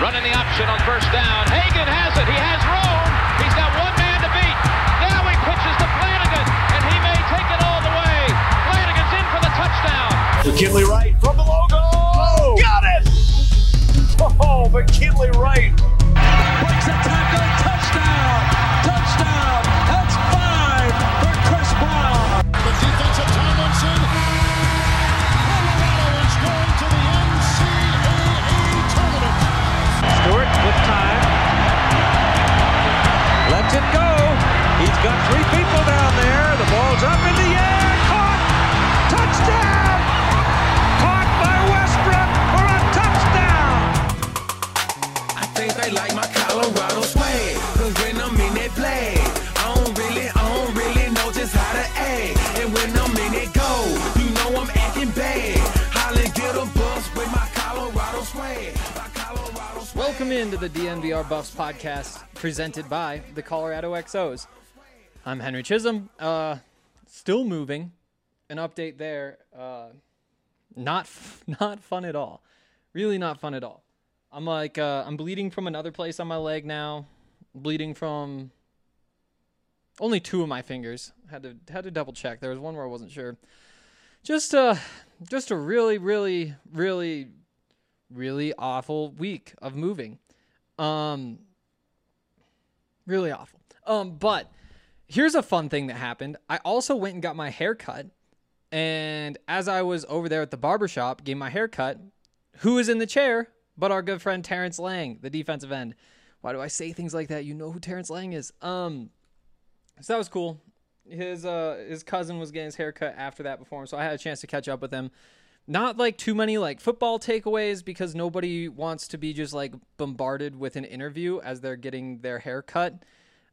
Running the option on first down. Hagan has it. He has room. He's got one man to beat. Now he pitches to Flanagan, and he may take it all the way. Flanagan's in for the touchdown. McKinley Wright from the logo. Oh, got it! Oh, McKinley Wright. Breaks a tackle. Touchdown. Touchdown. That's 5 for Chris Brown. The defense of Tomlinson. Colorado is going to the NCAA tournament. Stewart with time. Lets it go. He's got 3 people down there. The ball's up in the air. Caught. Touchdown. Caught by Westbrook for a touchdown. I think they like my Colorado swag. Cause when I'm in that play, I don't really know just how to act. And when I'm in that go, you know I'm acting bad. Holly get a bus with my Colorado swag. Welcome into the DNVR Buffs podcast presented by the Colorado XOs. I'm Henry Chisholm. Still moving. An update there. Not fun at all. Really not fun at all. I'm bleeding from another place on my leg now. Bleeding from only 2 of my fingers. Had to double check. There was one where I wasn't sure. Just a really, really, really, really awful week of moving. Really awful. But here's a fun thing that happened. I also went and got my hair cut. And as I was over there at the barbershop getting my hair cut, who is in the chair but our good friend Terrence Lang, the defensive end. Why do I say things like that? You know who Terrence Lang is. So that was cool. His cousin was getting his hair cut after that before him, so I had a chance to catch up with him. Not like too many like football takeaways because nobody wants to be just like bombarded with an interview as they're getting their hair cut.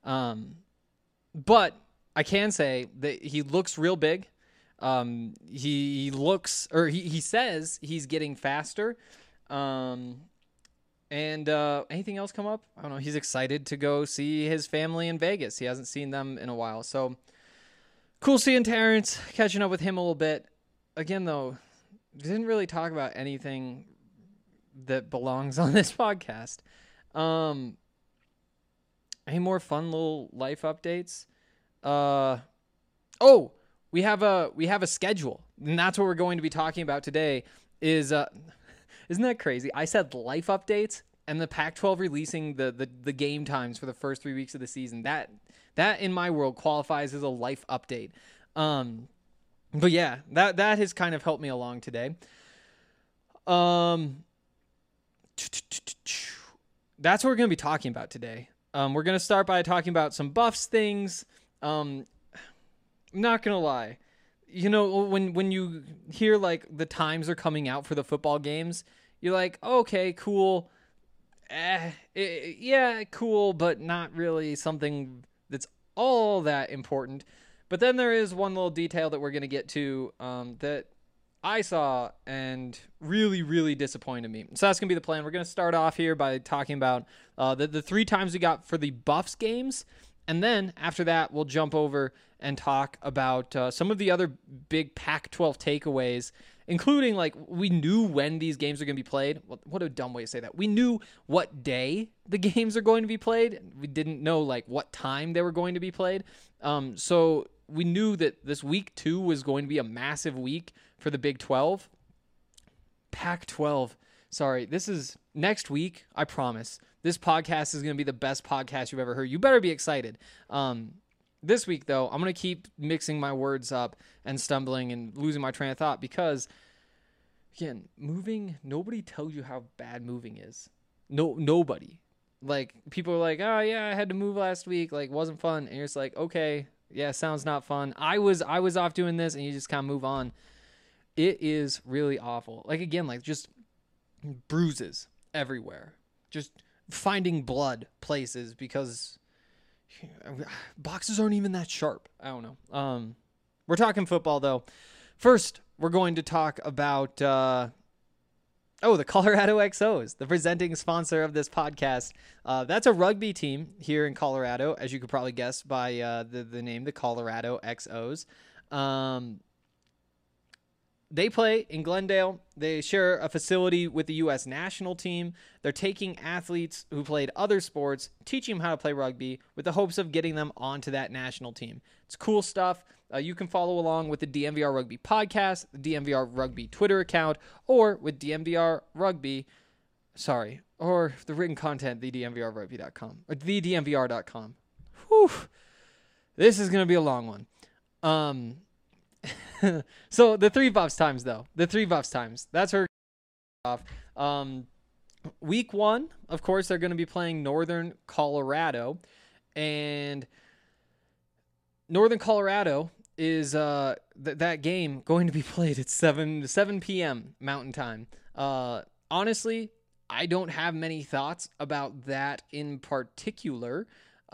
But I can say that he looks real big. He says he's getting faster. And anything else come up? I don't know. He's excited to go see his family in Vegas. He hasn't seen them in a while. So cool seeing Terrence, catching up with him a little bit. Again, though, didn't really talk about anything that belongs on this podcast. Any more fun little life updates? We have a schedule, and that's what we're going to be talking about today. Isn't that crazy? I said life updates, and the Pac-12 releasing the game times for the first 3 weeks of the season. That in my world qualifies as a life update. But yeah, that has kind of helped me along today. That's what we're going to be talking about today. We're going to start by talking about some Buffs things. I'm not going to lie. You know, when you hear like the times are coming out for the football games, you're like, okay, cool. Yeah, cool, but not really something that's all that important. But then there is one little detail that we're going to get to that I saw and really, really disappointed me. So that's going to be the plan. We're going to start off here by talking about the 3 times we got for the Buffs games. And then after that, we'll jump over and talk about some of the other big Pac-12 takeaways, including like we knew when these games are going to be played. What a dumb way to say that. We knew what day the games are going to be played. We didn't know like what time they were going to be played. So we knew that this week 2 was going to be a massive week for the Big 12. Pac-12. Sorry, this is next week. I promise. This podcast is going to be the best podcast you've ever heard. You better be excited. This week, though, I'm going to keep mixing my words up and stumbling and losing my train of thought because, again, moving, nobody tells you how bad moving is. Nobody. Like, people are like, oh, yeah, I had to move last week. Like, wasn't fun. And you're just like, okay, yeah, sounds not fun. I was off doing this, and you just kind of move on. It is really awful. Like, again, like, just bruises everywhere. Just finding blood places because boxes aren't even that sharp. I don't know. We're talking football, though. First, we're going to talk about the Colorado XOs, the presenting sponsor of this podcast. That's a rugby team here in Colorado, as you could probably guess by the name, the Colorado XOs. they play in Glendale. They share a facility with the U.S. national team. They're taking athletes who played other sports, teaching them how to play rugby with the hopes of getting them onto that national team. It's cool stuff. You can follow along with the DMVR Rugby podcast, the DMVR Rugby Twitter account, or with DMVR Rugby, or the written content, thedmvrrugby.com, or thedmvr.com. Whew. This is going to be a long one. So the 3 buffs times, though. The 3 buffs times. That's her off. Week 1, of course, they're going to be playing Northern Colorado. And Northern Colorado is that game going to be played at 7 p.m. Mountain Time. Honestly, I don't have many thoughts about that in particular.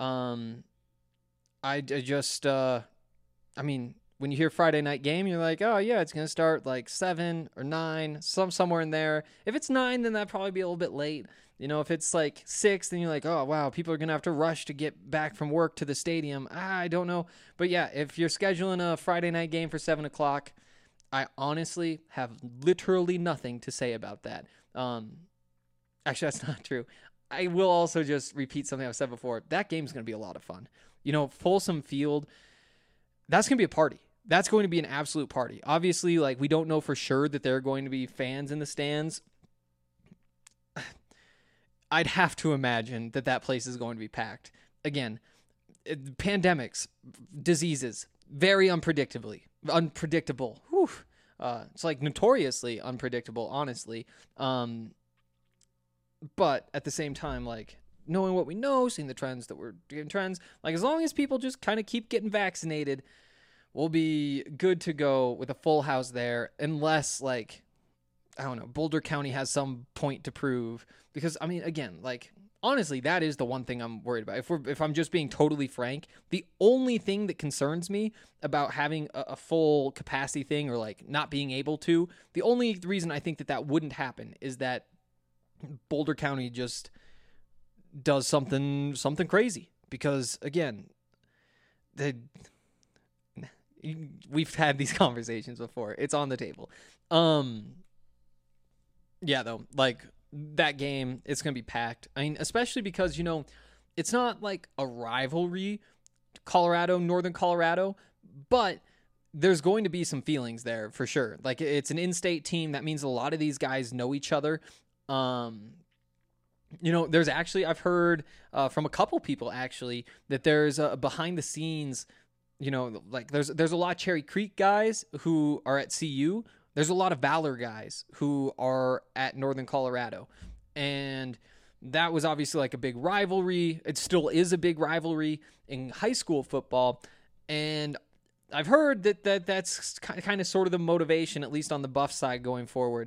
When you hear Friday night game, you're like, oh yeah, it's going to start like 7 or 9, somewhere in there. If it's 9, then that'd probably be a little bit late. If it's like 6, then you're like, oh wow, people are going to have to rush to get back from work to the stadium. I don't know. But yeah, if you're scheduling a Friday night game for 7 o'clock, I honestly have literally nothing to say about that. Actually, that's not true. I will also just repeat something I've said before. That game's going to be a lot of fun. Folsom Field, that's going to be a party. That's going to be an absolute party. Obviously, like, we don't know for sure that there are going to be fans in the stands. I'd have to imagine that place is going to be packed. Again, pandemics, diseases, very unpredictable. Whew. It's like notoriously unpredictable, honestly. But at the same time, like, knowing what we know, seeing the trends that we're getting like, as long as people just kind of keep getting vaccinated, we'll be good to go with a full house there, unless, like, I don't know, Boulder County has some point to prove. Because, I mean, again, like, honestly, that is the one thing I'm worried about. If I'm just being totally frank, the only thing that concerns me about having a full capacity thing, or like not being able to, the only reason I think that wouldn't happen is that Boulder County just does something crazy. Because again, we've had these conversations before. It's on the table. Yeah, though, like, that game, it's going to be packed. I mean, especially because, it's not like a rivalry, Northern Colorado, but there's going to be some feelings there for sure. Like, it's an in-state team. That means a lot of these guys know each other. There's actually, I've heard from a couple people actually, that there's a behind the scenes, like there's a lot of Cherry Creek guys who are at CU. There's a lot of Valor guys who are at Northern Colorado. And that was obviously like a big rivalry. It still is a big rivalry in high school football. And I've heard that's kind of sort of the motivation, at least on the Buff side going forward.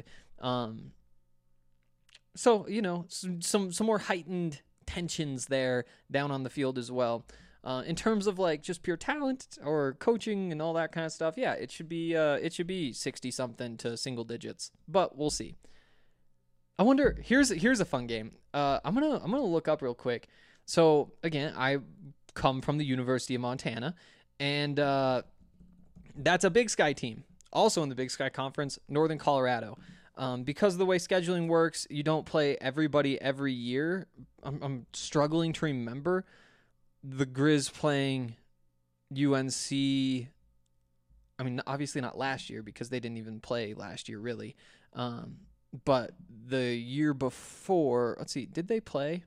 So, some more heightened tensions there down on the field as well. In terms of like just pure talent or coaching and all that kind of stuff, yeah, it should be 60 something to single digits, but we'll see. I wonder. Here's a fun game. I'm gonna look up real quick. So again, I come from the University of Montana, and that's a Big Sky team, also in the Big Sky Conference, Northern Colorado. Because of the way scheduling works, you don't play everybody every year. I'm struggling to remember the Grizz playing UNC. I mean, obviously not last year because they didn't even play last year, really. But the year before, let's see, did they play?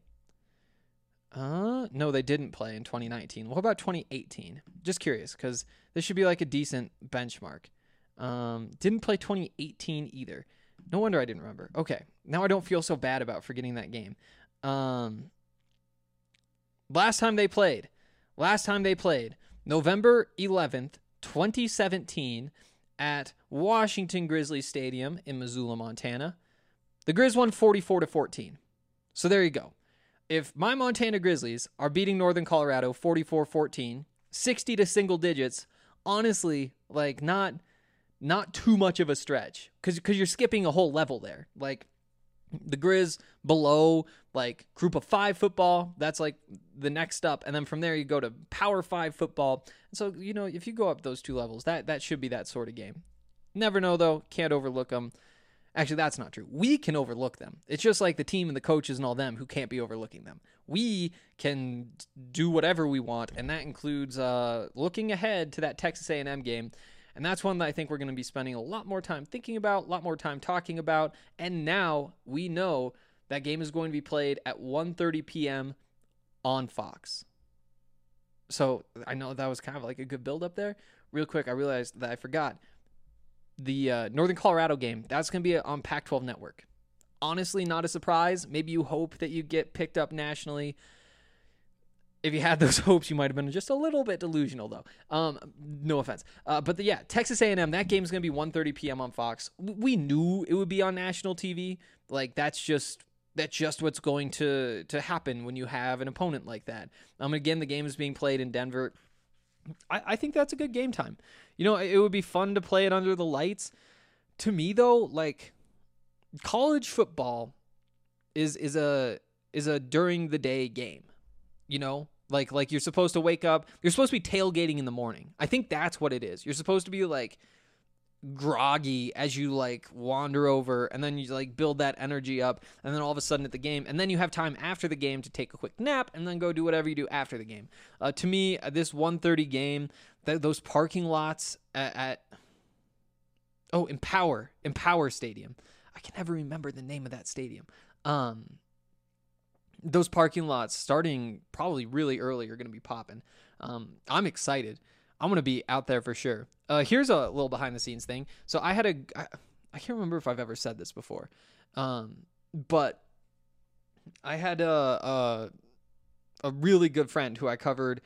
No, they didn't play in 2019. What about 2018? Just curious, because this should be like a decent benchmark. Didn't play 2018 either. No wonder I didn't remember. Okay, now I don't feel so bad about forgetting that game. Last time they played, November 11th, 2017, at Washington Grizzlies Stadium in Missoula, Montana. The Grizz won 44-14. So there you go. If my Montana Grizzlies are beating Northern Colorado 44-14, 60 to single digits, honestly, like, not too much of a stretch, because you're skipping a whole level there. Like, the Grizz below, like, Group of 5 football, that's like the next up, and then from there you go to Power 5 football. And so, if you go up those two levels, that should be that sort of game. Never know, though. Can't overlook them. Actually, that's not true. We can overlook them. It's just like the team and the coaches and all them who can't be overlooking them. We can do whatever we want, and that includes looking ahead to that Texas A&M game. And that's one that I think we're going to be spending a lot more time thinking about, a lot more time talking about. And now we know that game is going to be played at 1:30 p.m. on Fox. So I know that was kind of like a good build up there. Real quick, I realized that I forgot. The Northern Colorado game, that's going to be on Pac-12 Network. Honestly, not a surprise. Maybe you hope that you get picked up nationally. If you had those hopes, you might have been just a little bit delusional, though. No offense. But Texas A&M, that game is going to be 1:30 p.m. on Fox. We knew it would be on national TV. Like, that's just what's going to happen when you have an opponent like that. Again, the game is being played in Denver. I think that's a good game time. You know, it would be fun to play it under the lights. To me, though, like, college football is a during the day game. You know, like you're supposed to wake up. You're supposed to be tailgating in the morning. I think that's what it is. You're supposed to be like groggy as you like wander over, and then you like build that energy up, and then all of a sudden at the game, and then you have time after the game to take a quick nap and then go do whatever you do after the game. To me, this 1:30 game, those parking lots at Empower Stadium. I can never remember the name of that stadium. Those parking lots starting probably really early are going to be popping. I'm excited. I'm going to be out there for sure. Here's a little behind the scenes thing. So I can't remember if I've ever said this before. But I had a really good friend who I covered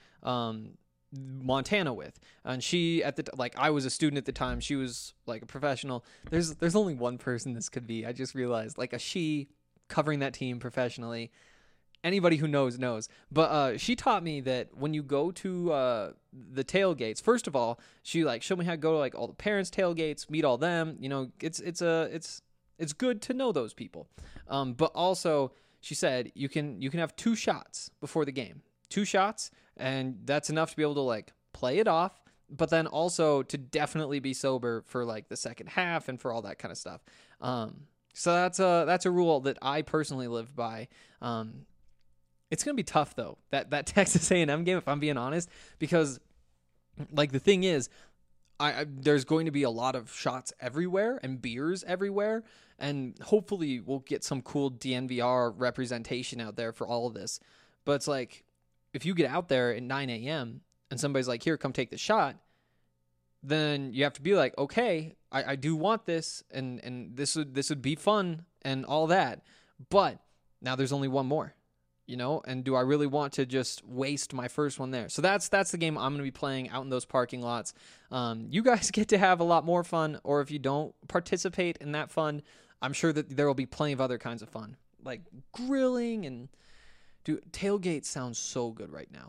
Montana with, and she I was a student at the time. She was like a professional. There's only one person this could be. I just realized, like, a she covering that team professionally. Anybody who knows. But she taught me that when you go to the tailgates, first of all, she like showed me how to go to like all the parents' tailgates, meet all them. You know, it's good to know those people. But also, she said you can have 2 shots before the game, 2 shots, and that's enough to be able to like play it off. But then also to definitely be sober for like the second half and for all that kind of stuff. So that's a rule that I personally live by. It's going to be tough, though, that Texas A&M game, if I'm being honest, because, like, the thing is, there's going to be a lot of shots everywhere and beers everywhere, and hopefully we'll get some cool DNVR representation out there for all of this. But it's like, if you get out there at 9 a.m. and somebody's like, here, come take the shot, then you have to be like, okay, I do want this, and this would be fun and all that, but now there's only one more. You know, and do I really want to just waste my first one there? So that's the game I'm going to be playing out in those parking lots. You guys get to have a lot more fun, or if you don't participate in that fun, I'm sure that there will be plenty of other kinds of fun, like grilling and tailgate sounds so good right now.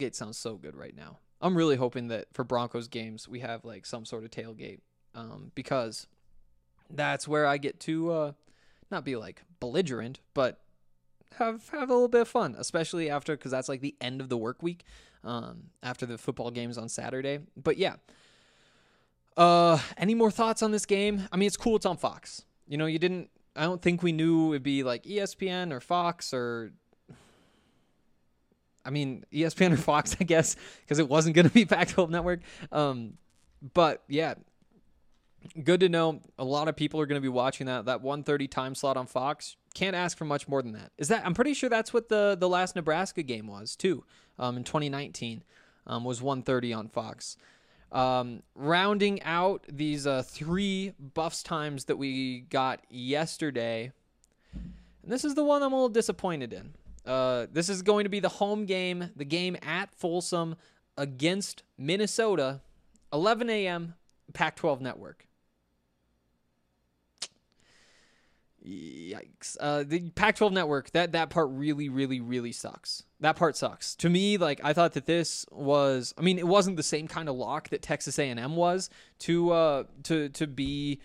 I'm really hoping that for Broncos games we have like some sort of tailgate, because that's where I get to not be like belligerent, but have a little bit of fun, especially because that's like the end of the work week, after the football games on Saturday. But yeah, any more thoughts on this game? I mean, it's cool. It's on Fox. You know, I don't think we knew it'd be like ESPN or Fox ESPN or Fox, I guess, because it wasn't going to be Pac-12 Network. But yeah, good to know. A lot of people are going to be watching that 1:30 time slot on Fox. Can't ask for much more than that. I'm pretty sure that's what the last Nebraska game was too. In 2019, was 1:30 on Fox. Rounding out these 3 Buffs times that we got yesterday, and this is the one I'm a little disappointed in. This is going to be the home game, the game at Folsom against Minnesota, 11 a.m. Pac-12 Network. Yikes. The Pac-12 Network, that part really, really, really sucks. That part sucks. To me, like, I thought that this was, I mean, it wasn't the same kind of lock that Texas A&M was to be,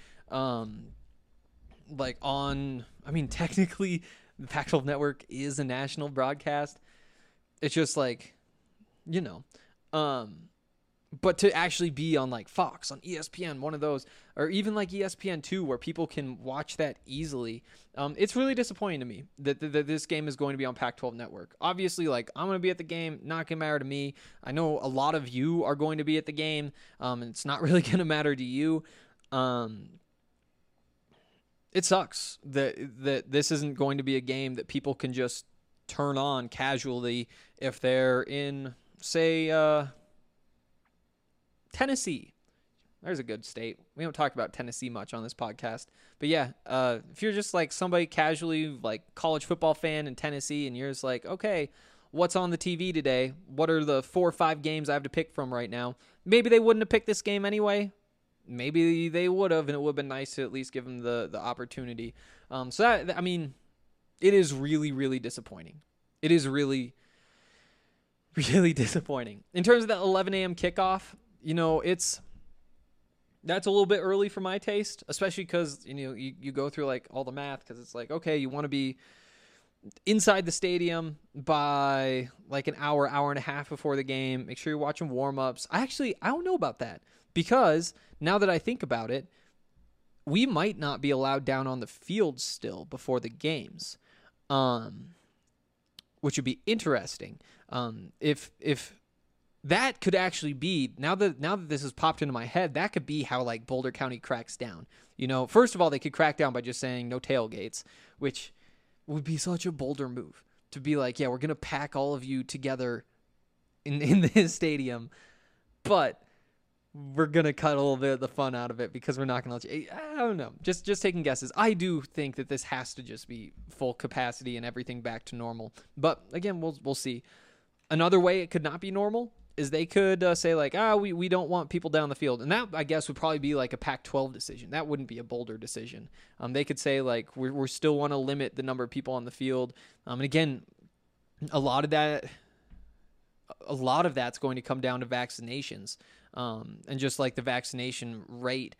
like, on, I mean, technically, the Pac-12 Network is a national broadcast. It's just like, you know, But to actually be on like Fox, on ESPN, one of those, or even like ESPN2 where people can watch that easily, it's really disappointing to me that this game is going to be on Pac-12 Network. Obviously, like, I'm going to be at the game, not going to matter to me. I know a lot of you are going to be at the game, and it's not really going to matter to you. It sucks that this isn't going to be a game that people can just turn on casually if they're in, say, Tennessee. There's a good state. We don't talk about Tennessee much on this podcast. But yeah, if you're just like somebody casually, like college football fan in Tennessee, and you're just like, okay, what's on the TV today? What are the 4 or 5 games I have to pick from right now? Maybe they wouldn't have picked this game anyway. Maybe they would have, and it would have been nice to at least give them the opportunity. So that, I mean, it is really, really disappointing. It is really, really disappointing. In terms of that 11 a.m. kickoff, you know, that's a little bit early for my taste, especially because, you know, you go through like all the math, because it's like, okay, you want to be inside the stadium by like an hour and a half before the game. Make sure you're watching warm-ups. I don't know about that, because now that I think about it, we might not be allowed down on the field still before the games, which would be interesting. If that could actually be, now that this has popped into my head, that could be how like Boulder County cracks down. You know, first of all, they could crack down by just saying no tailgates, which would be such a Boulder move to be like, yeah, we're going to pack all of you together in this stadium, but we're going to cut a little bit of the fun out of it because we're not going to let you. I don't know. Just taking guesses. I do think that this has to just be full capacity and everything back to normal. But again, we'll see. Another way it could not be normal is they could say like, we don't want people down the field. And that, I guess, would probably be like a Pac-12 decision. That wouldn't be a Boulder decision. They could say like, we still want to limit the number of people on the field. And again, a lot of that's going to come down to vaccinations. And just like the vaccination rate,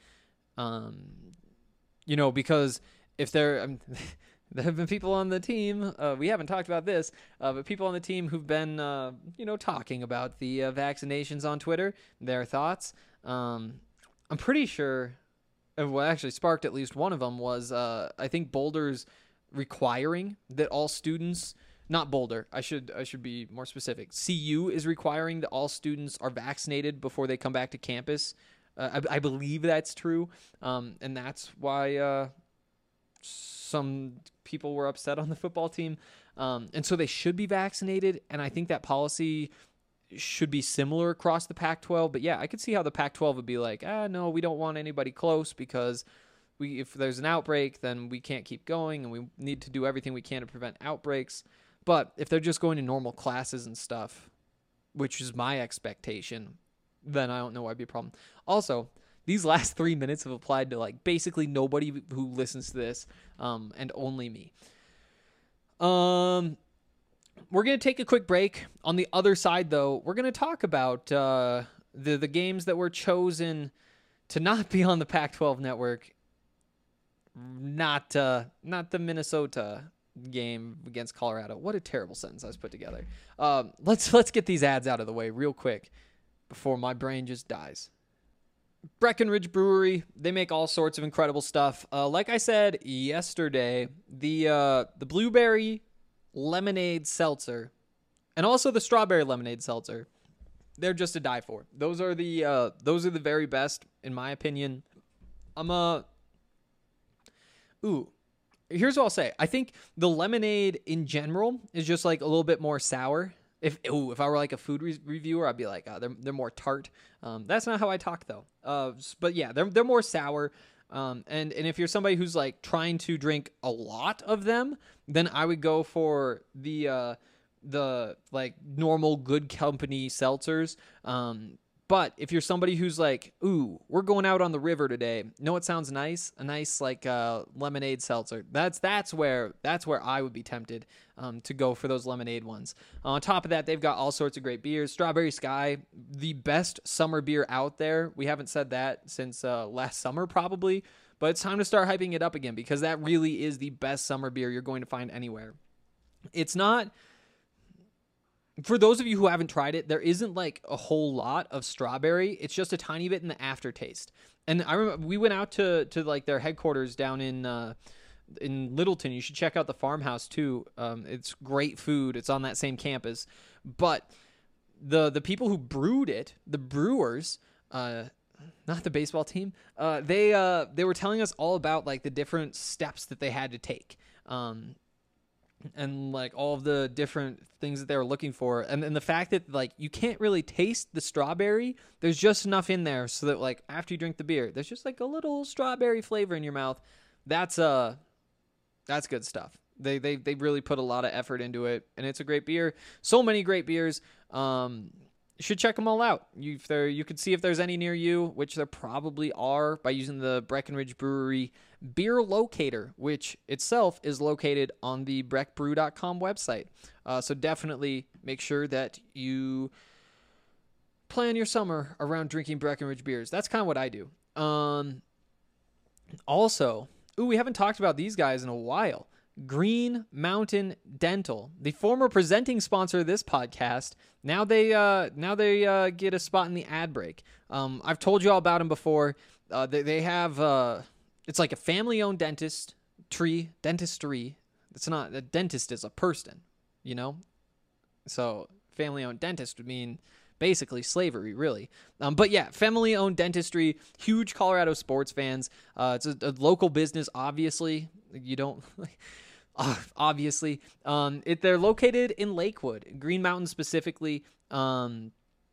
you know, because if there have been people on the team, we haven't talked about this, but people on the team who've been, talking about the vaccinations on Twitter, their thoughts. I'm pretty sure what actually sparked at least one of them was, I think Boulder's requiring that all students, not Boulder, I should be more specific. CU is requiring that all students are vaccinated before they come back to campus. I believe that's true. And that's why, some people were upset on the football team. And so they should be vaccinated. And I think that policy should be similar across the Pac-12. But yeah, I could see how the Pac-12 would be like, no, we don't want anybody close because if there's an outbreak, then we can't keep going and we need to do everything we can to prevent outbreaks. But if they're just going to normal classes and stuff, which is my expectation, then I don't know why it'd be a problem. Also, these last 3 minutes have applied to like basically nobody who listens to this, and only me. We're going to take a quick break. On the other side, though, we're going to talk about the games that were chosen to not be on the Pac-12 network. Not the Minnesota game against Colorado. What a terrible sentence I was put together. Let's get these ads out of the way real quick before my brain just dies. Breckenridge Brewery, they make all sorts of incredible stuff. Like I said yesterday, the blueberry lemonade seltzer and also the strawberry lemonade seltzer, they're just to die for. Those are the very best in my opinion. Here's what I'll say. I think the lemonade in general is just like a little bit more sour. If I were like a food reviewer, I'd be like, they're more tart. That's not how I talk though. But yeah, they're more sour. And if you're somebody who's like trying to drink a lot of them, then I would go for the like normal Good Company seltzers. But if you're somebody who's like, we're going out on the river today. Know what sounds nice? A nice like lemonade seltzer. That's where I would be tempted to go for those lemonade ones. On top of that, they've got all sorts of great beers. Strawberry Sky, the best summer beer out there. We haven't said that since last summer probably, but it's time to start hyping it up again because that really is the best summer beer you're going to find anywhere. It's not for those of you who haven't tried it, there isn't like a whole lot of strawberry. It's just a tiny bit in the aftertaste. And I remember we went out to like their headquarters down in Littleton. You should check out the farmhouse too. It's great food. It's on that same campus. But the people who brewed it, the brewers, not the baseball team, they were telling us all about like the different steps that they had to take. And like all of the different things that they were looking for. And the fact that like you can't really taste the strawberry, there's just enough in there so that like after you drink the beer, there's just like a little strawberry flavor in your mouth. That's good stuff. They really put a lot of effort into it, and it's a great beer. So many great beers. You should check them all out. You could see if there's any near you, which there probably are, by using the Breckenridge Brewery beer locator, which itself is located on the breckbrew.com website. So definitely make sure that you plan your summer around drinking Breckenridge beers. That's kind of what I do. Also, we haven't talked about these guys in a while. Green Mountain Dental, the former presenting sponsor of this podcast. Now they get a spot in the ad break. I've told you all about them before. They have it's like a family-owned dentistry. It's not a dentist is a person, you know. So family-owned dentist would mean basically slavery, really. But yeah, family-owned dentistry. Huge Colorado sports fans. It's a local business, obviously. You don't. Obviously, they're located in Lakewood, Green Mountain specifically, because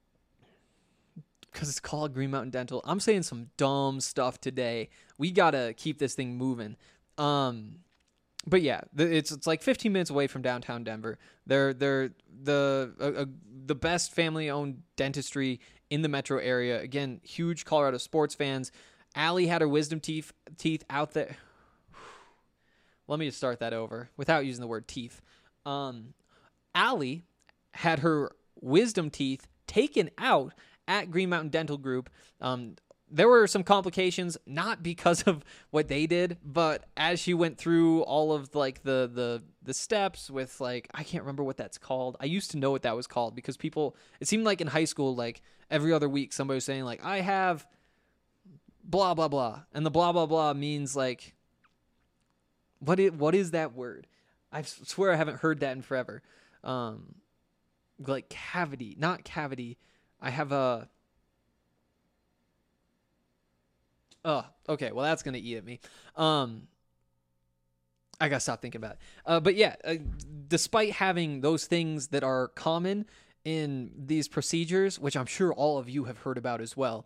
it's called Green Mountain Dental. I'm saying some dumb stuff today. We gotta keep this thing moving. But yeah, it's like 15 minutes away from downtown Denver. They're the best family-owned dentistry in the metro area. Again, huge Colorado sports fans. Allie had her wisdom teeth out there. Let me just start that over without using the word teeth. Allie had her wisdom teeth taken out at Green Mountain Dental Group. There were some complications, not because of what they did, but as she went through all of like the steps with like, I can't remember what that's called. I used to know what that was called because it seemed like in high school, like every other week somebody was saying like, I have blah, blah, blah. And the blah, blah, blah means like, what is that word? I swear I haven't heard that in forever. Like cavity, not cavity. I have a... Oh, okay. Well, that's going to eat at me. I got to stop thinking about it. But yeah, despite having those things that are common in these procedures, which I'm sure all of you have heard about as well,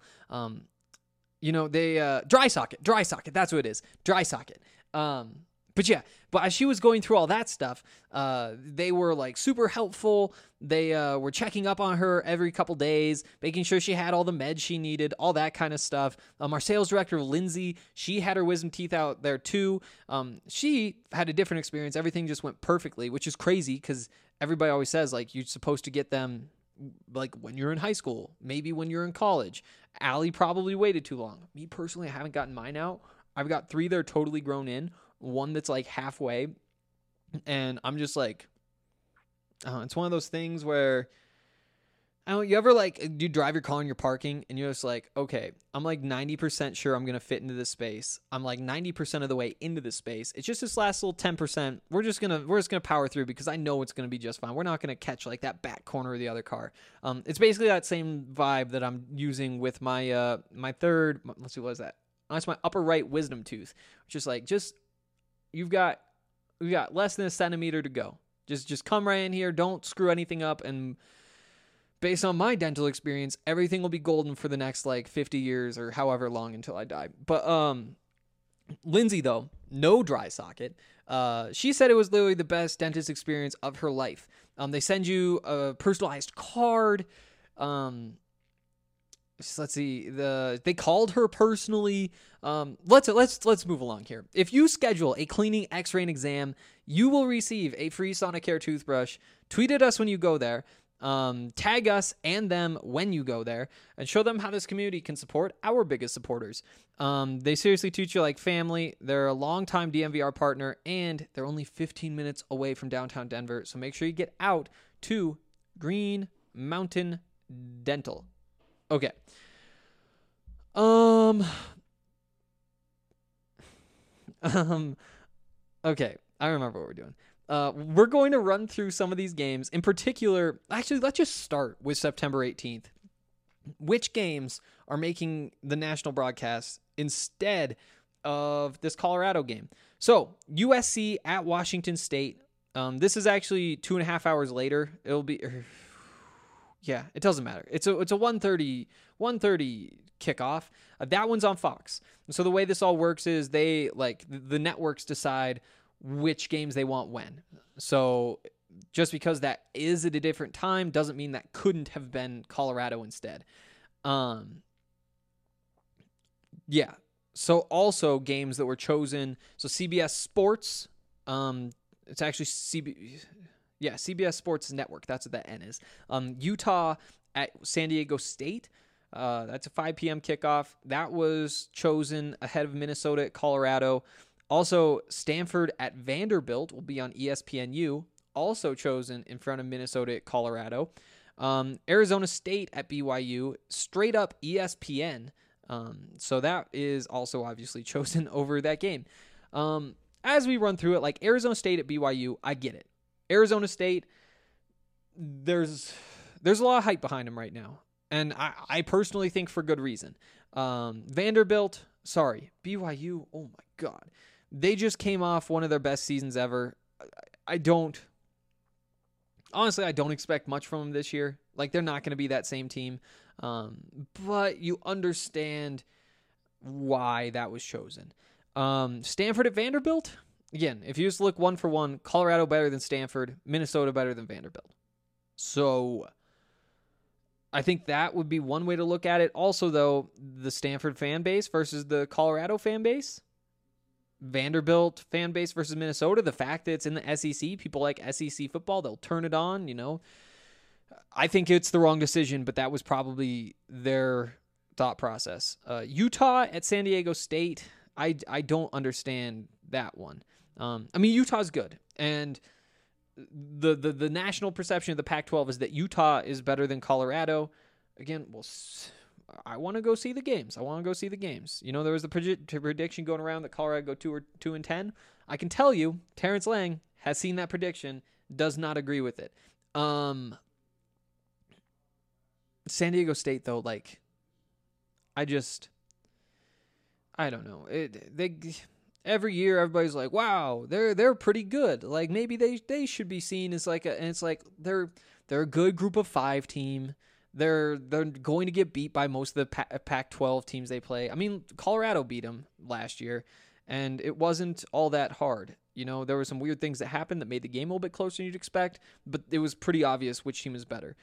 they dry socket. That's what it is. Dry socket. But as she was going through all that stuff, they were like super helpful. They were checking up on her every couple days, making sure she had all the meds she needed, all that kind of stuff. Our sales director, Lindsay, she had her wisdom teeth out there too. She had a different experience. Everything just went perfectly, which is crazy because everybody always says like you're supposed to get them like when you're in high school, maybe when you're in college. Allie probably waited too long. Me personally, I haven't gotten mine out. I've got 3 that are totally grown in. One that's like halfway, and I'm just like, it's one of those things where, you ever like, you drive your car and you're parking and you're just like, okay, I'm like 90% sure I'm going to fit into this space. I'm like 90% of the way into this space. It's just this last little 10%. We're just going to power through because I know it's going to be just fine. We're not going to catch like that back corner of the other car. It's basically that same vibe that I'm using with my, my third, let's see, what is that? That's my upper right wisdom tooth, which is like, we've got less than a centimeter to go. Just come right in here. Don't screw anything up. And based on my dental experience, everything will be golden for the next like 50 years or however long until I die. But Lindsay, though, no dry socket. She said it was literally the best dentist experience of her life. They send you a personalized card. Let's see. They called her personally. Let's move along here. If you schedule a cleaning, X-ray, and exam, you will receive a free Sonicare toothbrush. Tweet at us when you go there. Tag us and them when you go there, and show them how this community can support our biggest supporters. They seriously treat you like family. They're a longtime DMVR partner, and they're only 15 minutes away from downtown Denver. So make sure you get out to Green Mountain Dental. Okay. Okay, I remember what we're doing. We're going to run through some of these games. In particular, actually, let's just start with September 18th. Which games are making the national broadcast instead of this Colorado game? So, USC at Washington State. This is actually 2.5 hours later. It'll be... Yeah, it doesn't matter. It's a 1:30 kickoff. That one's on Fox. So the way this all works is they the networks decide which games they want when. So just because that is at a different time doesn't mean that couldn't have been Colorado instead. Yeah. So also games that were chosen. So CBS Sports. It's actually CBS Sports Network. That's what that N is. Utah at San Diego State. That's a 5 p.m. kickoff. That was chosen ahead of Minnesota at Colorado. Also, Stanford at Vanderbilt will be on ESPNU. Also chosen in front of Minnesota at Colorado. Arizona State at BYU. Straight up ESPN. So that is also obviously chosen over that game. As we run through it, like Arizona State at BYU, I get it. Arizona State, there's a lot of hype behind them right now. And I personally think for good reason. Vanderbilt, BYU, oh my God. They just came off one of their best seasons ever. I don't expect much from them this year. Like, they're not going to be that same team. But you understand why that was chosen. Stanford at Vanderbilt, again, if you just look one for one, Colorado better than Stanford, Minnesota better than Vanderbilt. So I think that would be one way to look at it. Also, though, the Stanford fan base versus the Colorado fan base, Vanderbilt fan base versus Minnesota, the fact that it's in the SEC, people like SEC football, they'll turn it on, you know. I think it's the wrong decision, but that was probably their thought process. Utah at San Diego State, I don't understand that one. I mean, Utah's good, and the national perception of the Pac-12 is that Utah is better than Colorado. Again, I want to go see the games. You know, there was the prediction going around that Colorado go 2-10. I can tell you, Terrence Lang has seen that prediction, does not agree with it. San Diego State, though, like, I don't know. Every year everybody's like, wow, they're pretty good. Like, maybe they should be seen as like and it's like they're a good group of 5 team. They're going to get beat by most of the Pac-12 teams they play. I mean, Colorado beat them last year, and it wasn't all that hard. You know, there were some weird things that happened that made the game a little bit closer than you'd expect, but it was pretty obvious which team is better.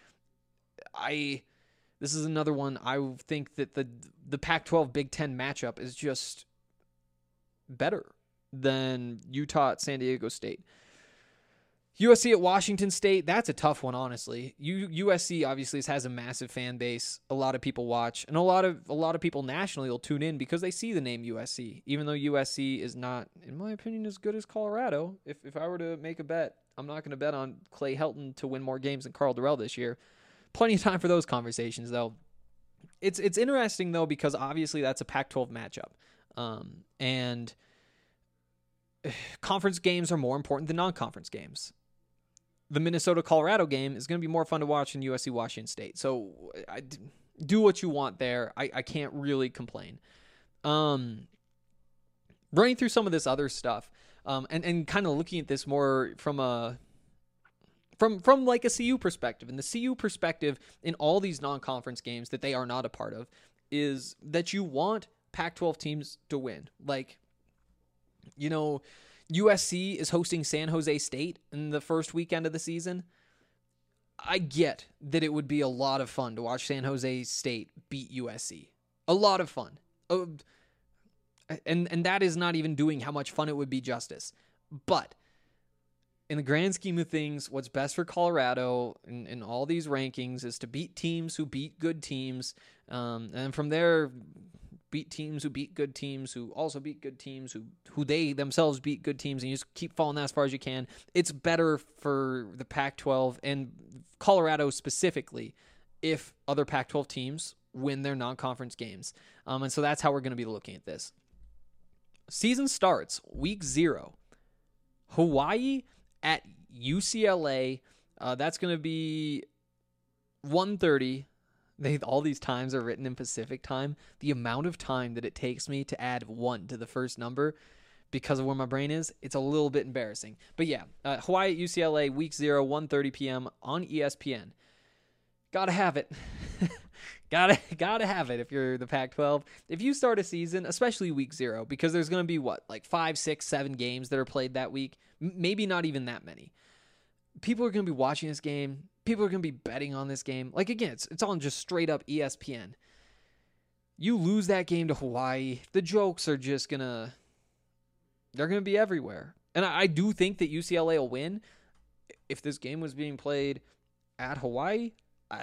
This is another one. I think that the Pac-12 Big Ten matchup is just better than Utah at San Diego State. USC at Washington State, that's a tough one, honestly. USC obviously has a massive fan base. A lot of people watch, and a lot of people nationally will tune in because they see the name USC, even though USC is not, in my opinion, as good as Colorado. If I were to make a bet, I'm not going to bet on Clay Helton to win more games than Carl Durrell this year. Plenty of time for those conversations, though. It's interesting, though, because obviously that's a Pac-12 matchup. And conference games are more important than non-conference games. The Minnesota-Colorado game is going to be more fun to watch than USC-Washington State. So do what you want there. I can't really complain. Running through some of this other stuff, and kind of looking at this more from like a CU perspective. And the CU perspective in all these non-conference games that they are not a part of is that you want Pac-12 teams to win. Like, you know, USC is hosting San Jose State in the first weekend of the season. I get that it would be a lot of fun to watch San Jose State beat USC. A lot of fun. And that is not even doing how much fun it would be justice. But in the grand scheme of things, what's best for Colorado in all these rankings is to beat teams who beat good teams. And from there, beat teams who beat good teams, who also beat good teams, who they themselves beat good teams, and you just keep following that as far as you can. It's better for the Pac-12 and Colorado specifically, if other Pac-12 teams win their non-conference games. And so that's how we're going to be looking at this. Season starts week 0. Hawaii at UCLA. That's going to be 1:30. All these times are written in Pacific time. The amount of time that it takes me to add 1 to the first number because of where my brain is, it's a little bit embarrassing. But yeah, Hawaii at UCLA, week 0, 1:30 p.m. on ESPN. Gotta have it. Gotta have it if you're the Pac-12. If you start a season, especially week 0, because there's going to be like 5, 6, 7 games that are played that week, maybe not even that many. People are going to be watching this game. People are going to be betting on this game. Like, again, it's on just straight up ESPN. You lose that game to Hawaii, the jokes are just they're going to be everywhere. And I do think that UCLA will win. If this game was being played at Hawaii,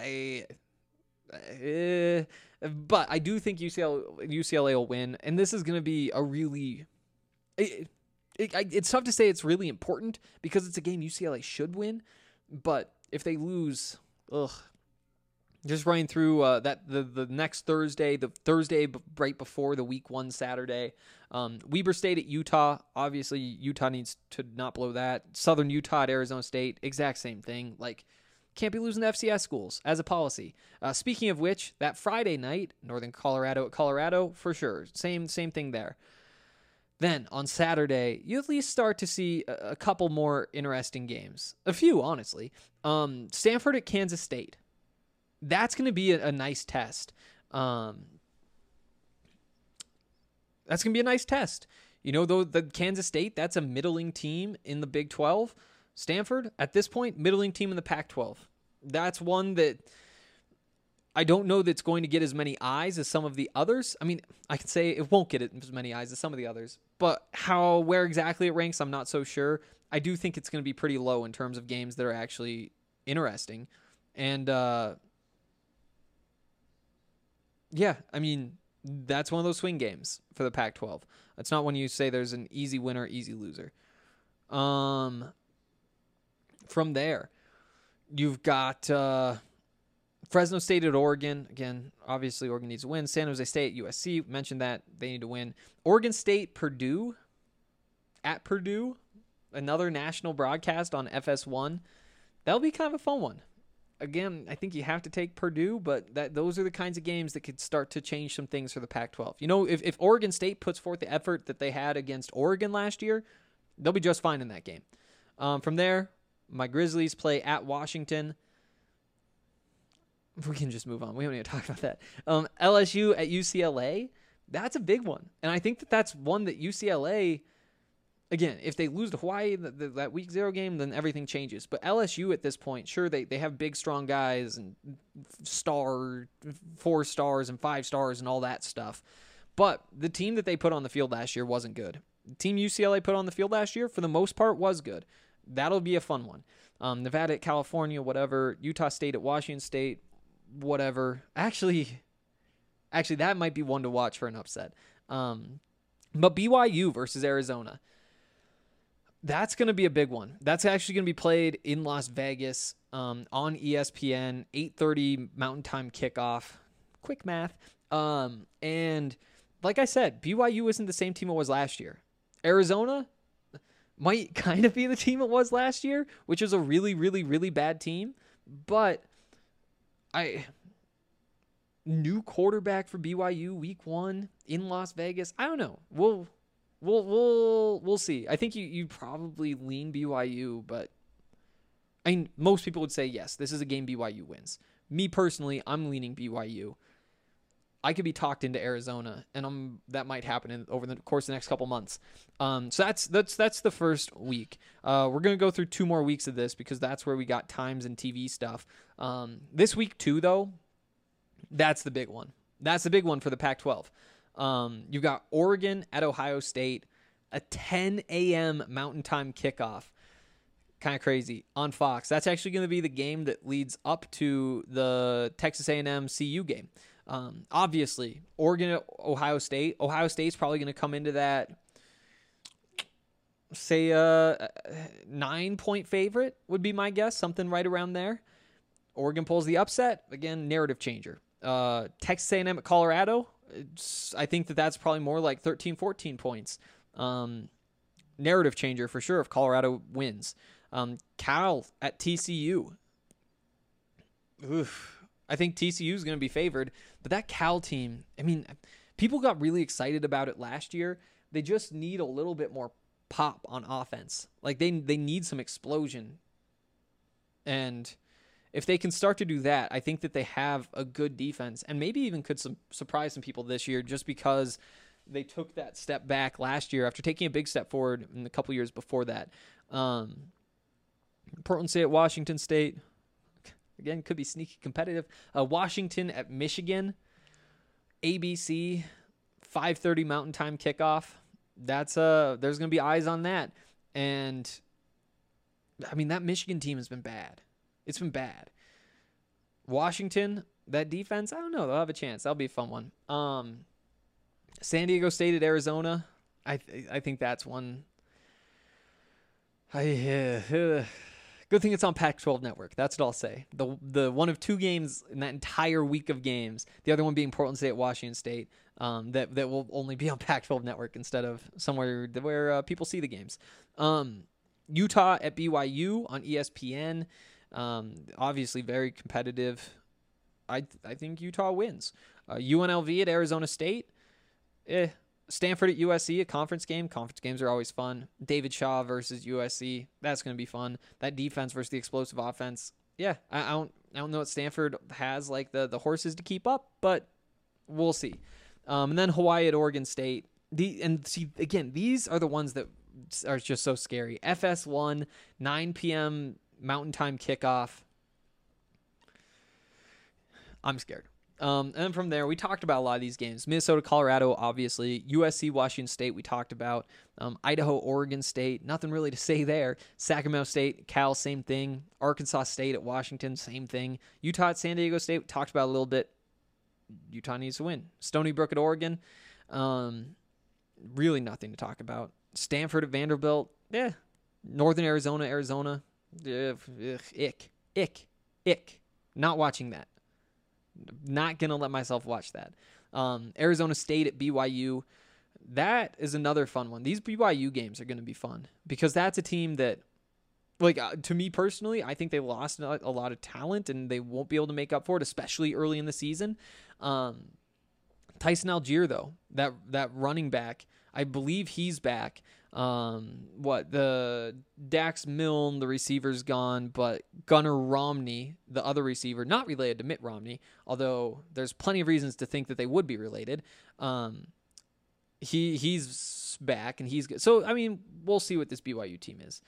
but I do think UCLA will win, and this is going to be a really. It's tough to say it's really important because it's a game UCLA should win, but if they lose, just running through the next Thursday, the Thursday right before the week 1 Saturday, Weber State at Utah. Obviously, Utah needs to not blow that. Southern Utah at Arizona State, exact same thing. Like, can't be losing to FCS schools as a policy. Speaking of which, that Friday night, Northern Colorado at Colorado, for sure. Same thing there. Then, on Saturday, you at least start to see a couple more interesting games. A few, honestly. Stanford at Kansas State. That's going to be a nice test. That's going to be a nice test. You know, though, the Kansas State, that's a middling team in the Big 12. Stanford, at this point, middling team in the Pac-12. That's one that I don't know that's going to get as many eyes as some of the others. I mean, I can say it won't get as many eyes as some of the others, but where exactly it ranks, I'm not so sure. I do think it's going to be pretty low in terms of games that are actually interesting. And, yeah, I mean, that's one of those swing games for the Pac-12. It's not when you say there's an easy winner, easy loser. From there, you've got Fresno State at Oregon. Again, obviously Oregon needs to win. San Jose State at USC. Mentioned that. They need to win. Oregon State, Purdue. At Purdue. Another national broadcast on FS1. That'll be kind of a fun one. Again, I think you have to take Purdue, but those are the kinds of games that could start to change some things for the Pac-12. You know, if Oregon State puts forth the effort that they had against Oregon last year, they'll be just fine in that game. From there, my Grizzlies play at Washington. We can just move on. We don't need to talk about that. LSU at UCLA. That's a big one. And I think that's one that UCLA, again, if they lose to Hawaii, that week 0 game, then everything changes. But LSU at this point, sure, they have big, strong guys and 4 stars and 5 stars and all that stuff. But the team that they put on the field last year wasn't good. The team UCLA put on the field last year, for the most part, was good. That'll be a fun one. Nevada at California, whatever. Utah State at Washington State, whatever. Actually, that might be one to watch for an upset. But BYU versus Arizona. That's going to be a big one. That's actually going to be played in Las Vegas on ESPN, 8:30 Mountain Time kickoff. Quick math. And like I said, BYU isn't the same team it was last year. Arizona might kind of be the team it was last year, which is a really, really, really bad team. But new quarterback for BYU week 1 in Las Vegas. I don't know. We'll see. I think you probably lean BYU, but I mean, most people would say yes, this is a game BYU wins. Me personally, I'm leaning BYU. I could be talked into Arizona, and that might happen over the course of the next couple months. So that's the first week. We're gonna go through 2 more weeks of this because that's where we got times and TV stuff. This week 2, though, that's the big one. That's the big one for the Pac-12. You've got Oregon at Ohio State, a 10 a.m. Mountain Time kickoff. Kind of crazy on Fox. That's actually going to be the game that leads up to the Texas A&M CU game. Obviously, Oregon at Ohio State. Ohio State's probably going to come into that, say, 9-point favorite would be my guess, something right around there. Oregon pulls the upset. Again, narrative changer. Texas A&M at Colorado. I think that's probably more like 13, 14 points. Narrative changer for sure if Colorado wins. Cal at TCU. Oof. I think TCU is going to be favored, but that Cal team, I mean, people got really excited about it last year. They just need a little bit more pop on offense. Like they need some explosion. And if they can start to do that, I think that they have a good defense and maybe even could surprise some people this year just because they took that step back last year after taking a big step forward in a couple years before that. Portland State at Washington State. Again, could be sneaky competitive. Washington at Michigan. ABC, 5:30 Mountain Time kickoff. There's going to be eyes on that. And, I mean, that Michigan team has been bad. It's been bad. Washington, that defense, I don't know. They'll have a chance. That'll be a fun one. San Diego State at Arizona. I think that's one. Good thing it's on Pac-12 Network. That's what I'll say. The one of two games in that entire week of games, the other one being Portland State at Washington State, that will only be on Pac-12 Network instead of somewhere where people see the games. Utah at BYU on ESPN. Obviously very competitive. I think Utah wins. UNLV at Arizona State. Stanford at USC, a conference game. Conference games are always fun. David Shaw versus USC. That's going to be fun. That defense versus the explosive offense. Yeah, I don't know what Stanford has, like the horses to keep up, but we'll see. And then Hawaii at Oregon State. These are the ones that are just so scary. FS1, 9 p.m. Mountain Time kickoff. I'm scared. And then from there, we talked about a lot of these games. Minnesota, Colorado, obviously. USC, Washington State, we talked about. Idaho, Oregon State, nothing really to say there. Sacramento State, Cal, same thing. Arkansas State at Washington, same thing. Utah at San Diego State, we talked about a little bit. Utah needs to win. Stony Brook at Oregon, really nothing to talk about. Stanford at Vanderbilt, Northern Arizona, ick. Not watching that. Not going to let myself watch that. Arizona State at BYU. That is another fun one. These BYU games are going to be fun because that's a team that, to me personally, I think they lost a lot of talent and they won't be able to make up for it, especially early in the season. Tyson Algier, though, that running back, I believe he's back. The Dax Milne, the receiver's gone, but Gunnar Romney, the other receiver, not related to Mitt Romney, although there's plenty of reasons to think that they would be related. He's back and he's good. So, I mean, we'll see what this BYU team is.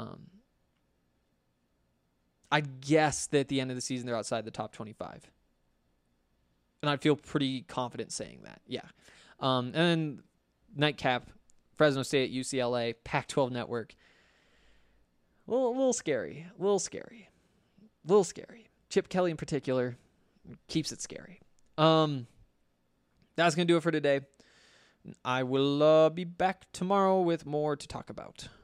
I'd guess that at the end of the season, they're outside the top 25. And I'd feel pretty confident saying that. Yeah. And then nightcap, Fresno State at UCLA, Pac-12 Network. A little scary. Chip Kelly in particular keeps it scary. That's going to do it for today. I will be back tomorrow with more to talk about.